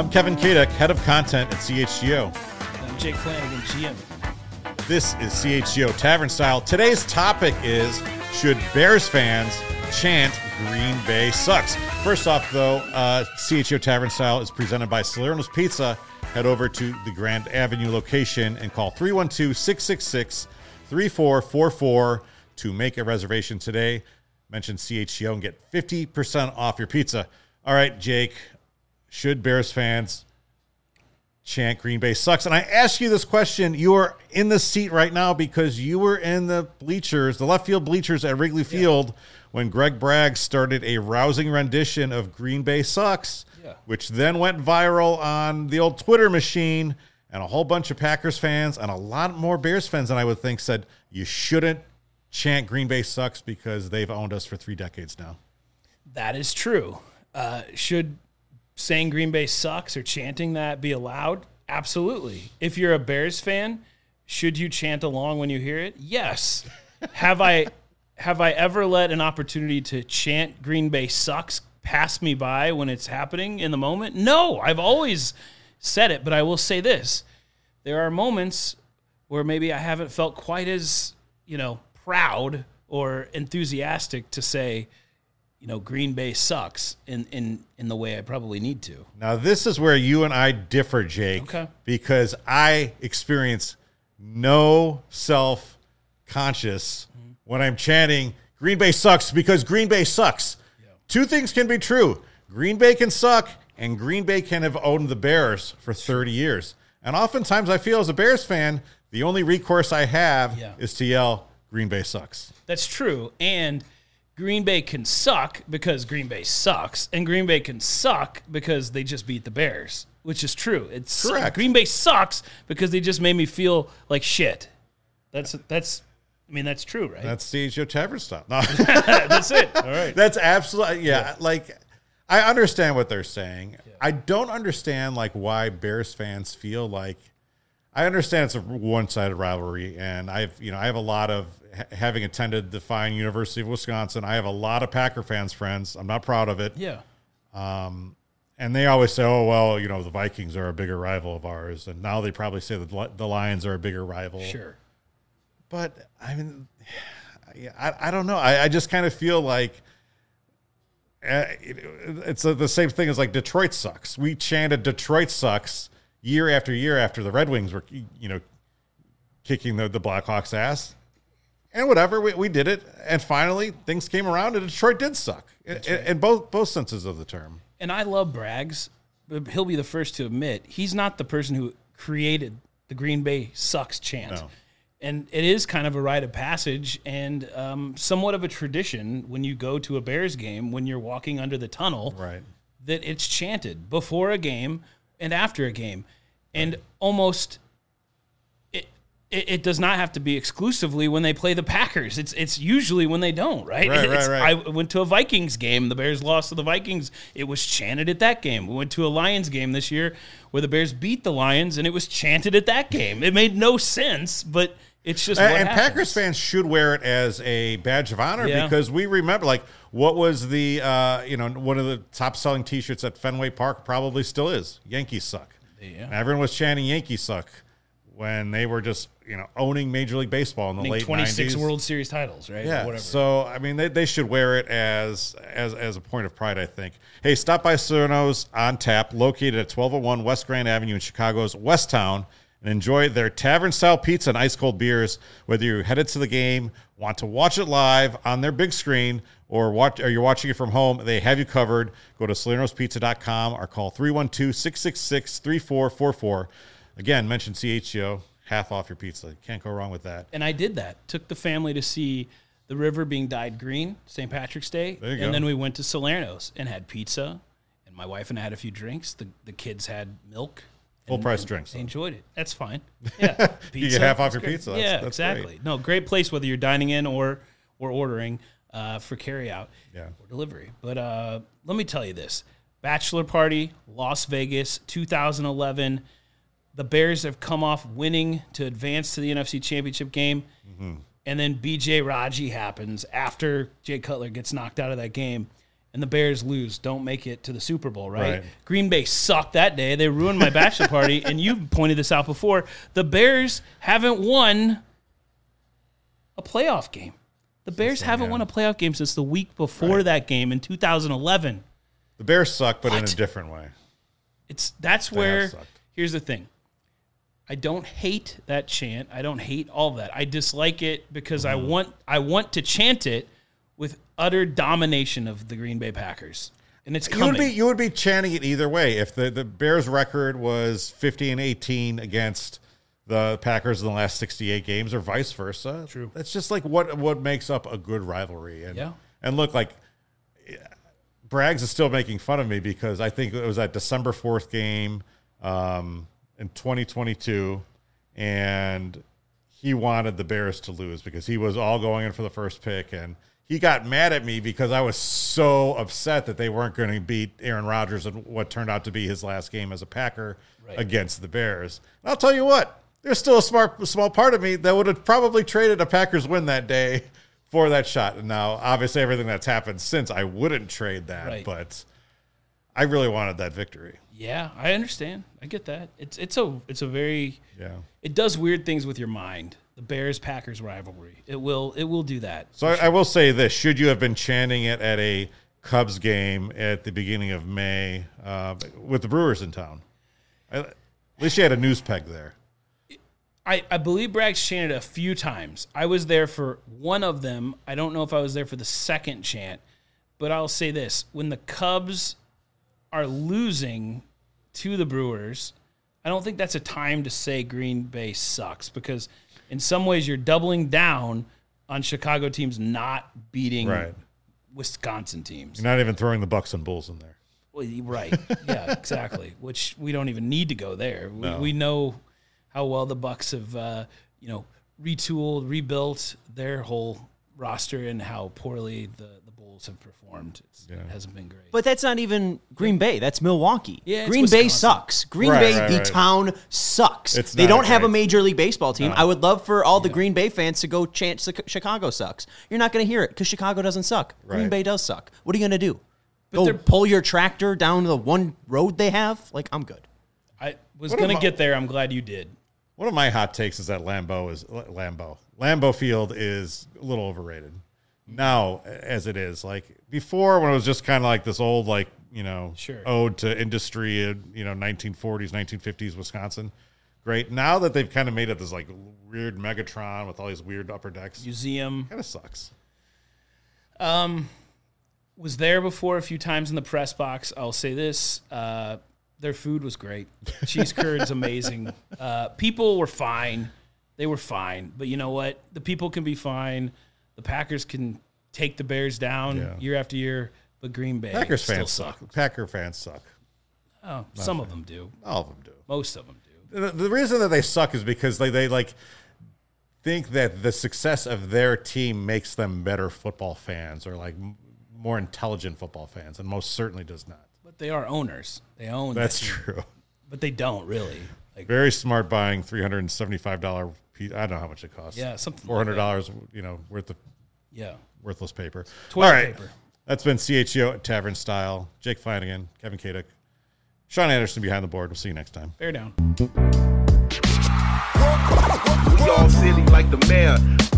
I'm Kevin Kadek, head of content at CHGO. I'm Jake Flanagan, GM. This is CHGO Tavern Style. Today's topic is, should Bears fans chant Green Bay sucks? First off, though, CHGO Tavern Style is presented by Salerno's Pizza. Head over to the Grand Avenue location and call 312-666-3444 to make a reservation today. Mention CHGO and get 50% off your pizza. All right, Jake, should Bears fans chant Green Bay sucks? And I ask you this question. You are in the seat right now because you were in the bleachers, the left field bleachers at Wrigley Field when Greg Bragg started a rousing rendition of Green Bay sucks, which then went viral on the old Twitter machine, and a whole bunch of Packers fans and a lot more Bears fans than I would think said you shouldn't chant Green Bay sucks because they've owned us for 3 decades now. That is true. Should saying Green Bay sucks or chanting that be allowed? Absolutely. If you're a Bears fan, should you chant along when you hear it? Yes. Have I ever let an opportunity to chant Green Bay sucks pass me by when it's happening in the moment? No, I've always said it, but I will say this. There are moments where maybe I haven't felt quite as, proud or enthusiastic to say, Green Bay sucks in the way I probably need to. Now, this is where you and I differ, Jake, because I experience no self-conscious when I'm chanting Green Bay sucks because Green Bay sucks. Yeah. 2 things can be true. Green Bay can suck, and Green Bay can have owned the Bears for 30 years. And oftentimes I feel as a Bears fan, the only recourse I have is to yell, Green Bay sucks. That's true. And Green Bay can suck because Green Bay sucks, and Green Bay can suck because they just beat the Bears, which is true. It's correct. Green Bay sucks because they just made me feel like shit. That's true, right? That's CHGO Tavern Style. No. That's it. All right. That's absolutely, like, I understand what they're saying. Yeah. I don't understand, why Bears fans feel like, I understand it's a one-sided rivalry, and I have a lot of, having attended the fine University of Wisconsin, I have a lot of Packer fans friends. I'm not proud of it. Yeah. And they always say, oh, well, the Vikings are a bigger rival of ours. And now they probably say that the Lions are a bigger rival. Sure. But, I don't know. I just kind of feel like it's the same thing as, Detroit sucks. We chanted Detroit sucks year after year after the Red Wings were, kicking the Blackhawks' ass. And whatever, we did it, and finally things came around, and Detroit did suck in both senses of the term. And I love Braggs, but he'll be the first to admit he's not the person who created the Green Bay sucks chant. No. And it is kind of a rite of passage and somewhat of a tradition when you go to a Bears game, when you're walking under the tunnel, right, that it's chanted before a game and after a game, and almost. It does not have to be exclusively when they play the Packers. It's usually when they don't, right? Right. I went to a Vikings game. The Bears lost to the Vikings. It was chanted at that game. We went to a Lions game this year where the Bears beat the Lions, and it was chanted at that game. It made no sense, but it's just what happens. Packers fans should wear it as a badge of honor because we remember, what was the, one of the top-selling T-shirts at Fenway Park probably still is, Yankees suck. Yeah. And everyone was chanting Yankees suck when they were just, owning Major League Baseball in the late 26 90s. World Series titles, right? Yeah. Or whatever. So, they should wear it as a point of pride, I think. Hey, stop by Salerno's on Tap, located at 1201 West Grand Avenue in Chicago's West Town, and enjoy their tavern-style pizza and ice-cold beers. Whether you're headed to the game, want to watch it live on their big screen, or you're watching it from home, they have you covered. Go to salernospizza.com or call 312-666-3444. Again, mention CHGO. Half off your pizza. Can't go wrong with that. And I did that. Took the family to see the river being dyed green, St. Patrick's Day. There you go. And then we went to Salerno's and had pizza. And my wife and I had a few drinks. The kids had milk. Full price drinks. They enjoyed it. That's fine. Yeah. Pizza, you get half off your pizza. That's exactly. Great. No, great place whether you're dining in or ordering for carryout or delivery. But let me tell you this. Bachelor party, Las Vegas, 2011. The Bears have come off winning to advance to the NFC Championship game. Mm-hmm. And then B.J. Raji happens after Jay Cutler gets knocked out of that game. and the Bears lose, don't make it to the Super Bowl, right? Right. Green Bay sucked that day. They ruined my bachelor party, and you pointed this out before. The Bears haven't won a playoff game. The Bears haven't won a playoff game since the week before that game in 2011. The Bears suck, but in a different way. That's where, sucked. here's the thing. I don't hate that chant. I don't hate all of that. I dislike it because I want to chant it with utter domination of the Green Bay Packers. And it's coming. You would be chanting it either way. If the Bears record was 50-18 against the Packers in the last 68 games, or vice versa. True. That's just like what makes up a good rivalry. And look, like, Braggs is still making fun of me because I think it was that December 4th game in 2022, and he wanted the Bears to lose because he was all going in for the first pick, and he got mad at me because I was so upset that they weren't going to beat Aaron Rodgers in what turned out to be his last game as a Packer against the Bears. And I'll tell you what, there's still a small part of me that would have probably traded a Packers win that day for that shot. And now, obviously, everything that's happened since, I wouldn't trade that, but I really wanted that victory. Yeah, I understand. I get that. It's a very it does weird things with your mind. The Bears-Packers rivalry. It will do that. So I will say this: should you have been chanting it at a Cubs game at the beginning of May with the Brewers in town? At least you had a news peg there. I believe Braggs chanted a few times. I was there for one of them. I don't know if I was there for the second chant, but I'll say this. When the Cubs are losing to the Brewers, I don't think that's a time to say Green Bay sucks, because in some ways you're doubling down on Chicago teams not beating Wisconsin teams. You're not even throwing the Bucks and Bulls in there. Well, right. Yeah, exactly. Which we don't even need to go there. No. We know how well the Bucks have, retooled, rebuilt their whole roster, and how poorly the Bulls have performed. It hasn't been great. But that's not even Green Bay. That's Milwaukee. Yeah, Green Bay sucks. Green Bay, the town, sucks. They don't have a Major League Baseball team. No. I would love for all the Green Bay fans to go chant Chicago sucks. You're not going to hear it because Chicago doesn't suck. Green Bay does suck. What are you going to do? Go pull your tractor down the one road they have? Like, I'm good. I was going to get there. I'm glad you did. One of my hot takes is that Lambeau Field is a little overrated now, as it is. Like before, when it was just kind of like this old, like, ode to industry in 1940s, 1950s Wisconsin. Great. Now that they've kind of made it this like weird Megatron with all these weird upper decks, museum, kind of sucks. Was there before a few times in the press box. I'll say this. Their food was great. Cheese curds, amazing. People were fine. They were fine. But you know what? The people can be fine. The Packers can take the Bears down year after year. But Green Bay Packers still fans suck. suck. Packer fans suck. Oh, some of them do. All of them do. Most of them do. The reason that they suck is because they like think that the success of their team makes them better football fans, or like more intelligent football fans, and most certainly does not. But they are owners. They own. That's true. But they don't really. Like, very smart buying $375 piece. I don't know how much it costs. Yeah, something $400, worth of worthless paper. Toilet paper. That's been CHGO at Tavern Style. Jake Flanagan, Kevin Kaduk, Sean Anderson behind the board. We'll see you next time. Bear down. We all silly like the mayor.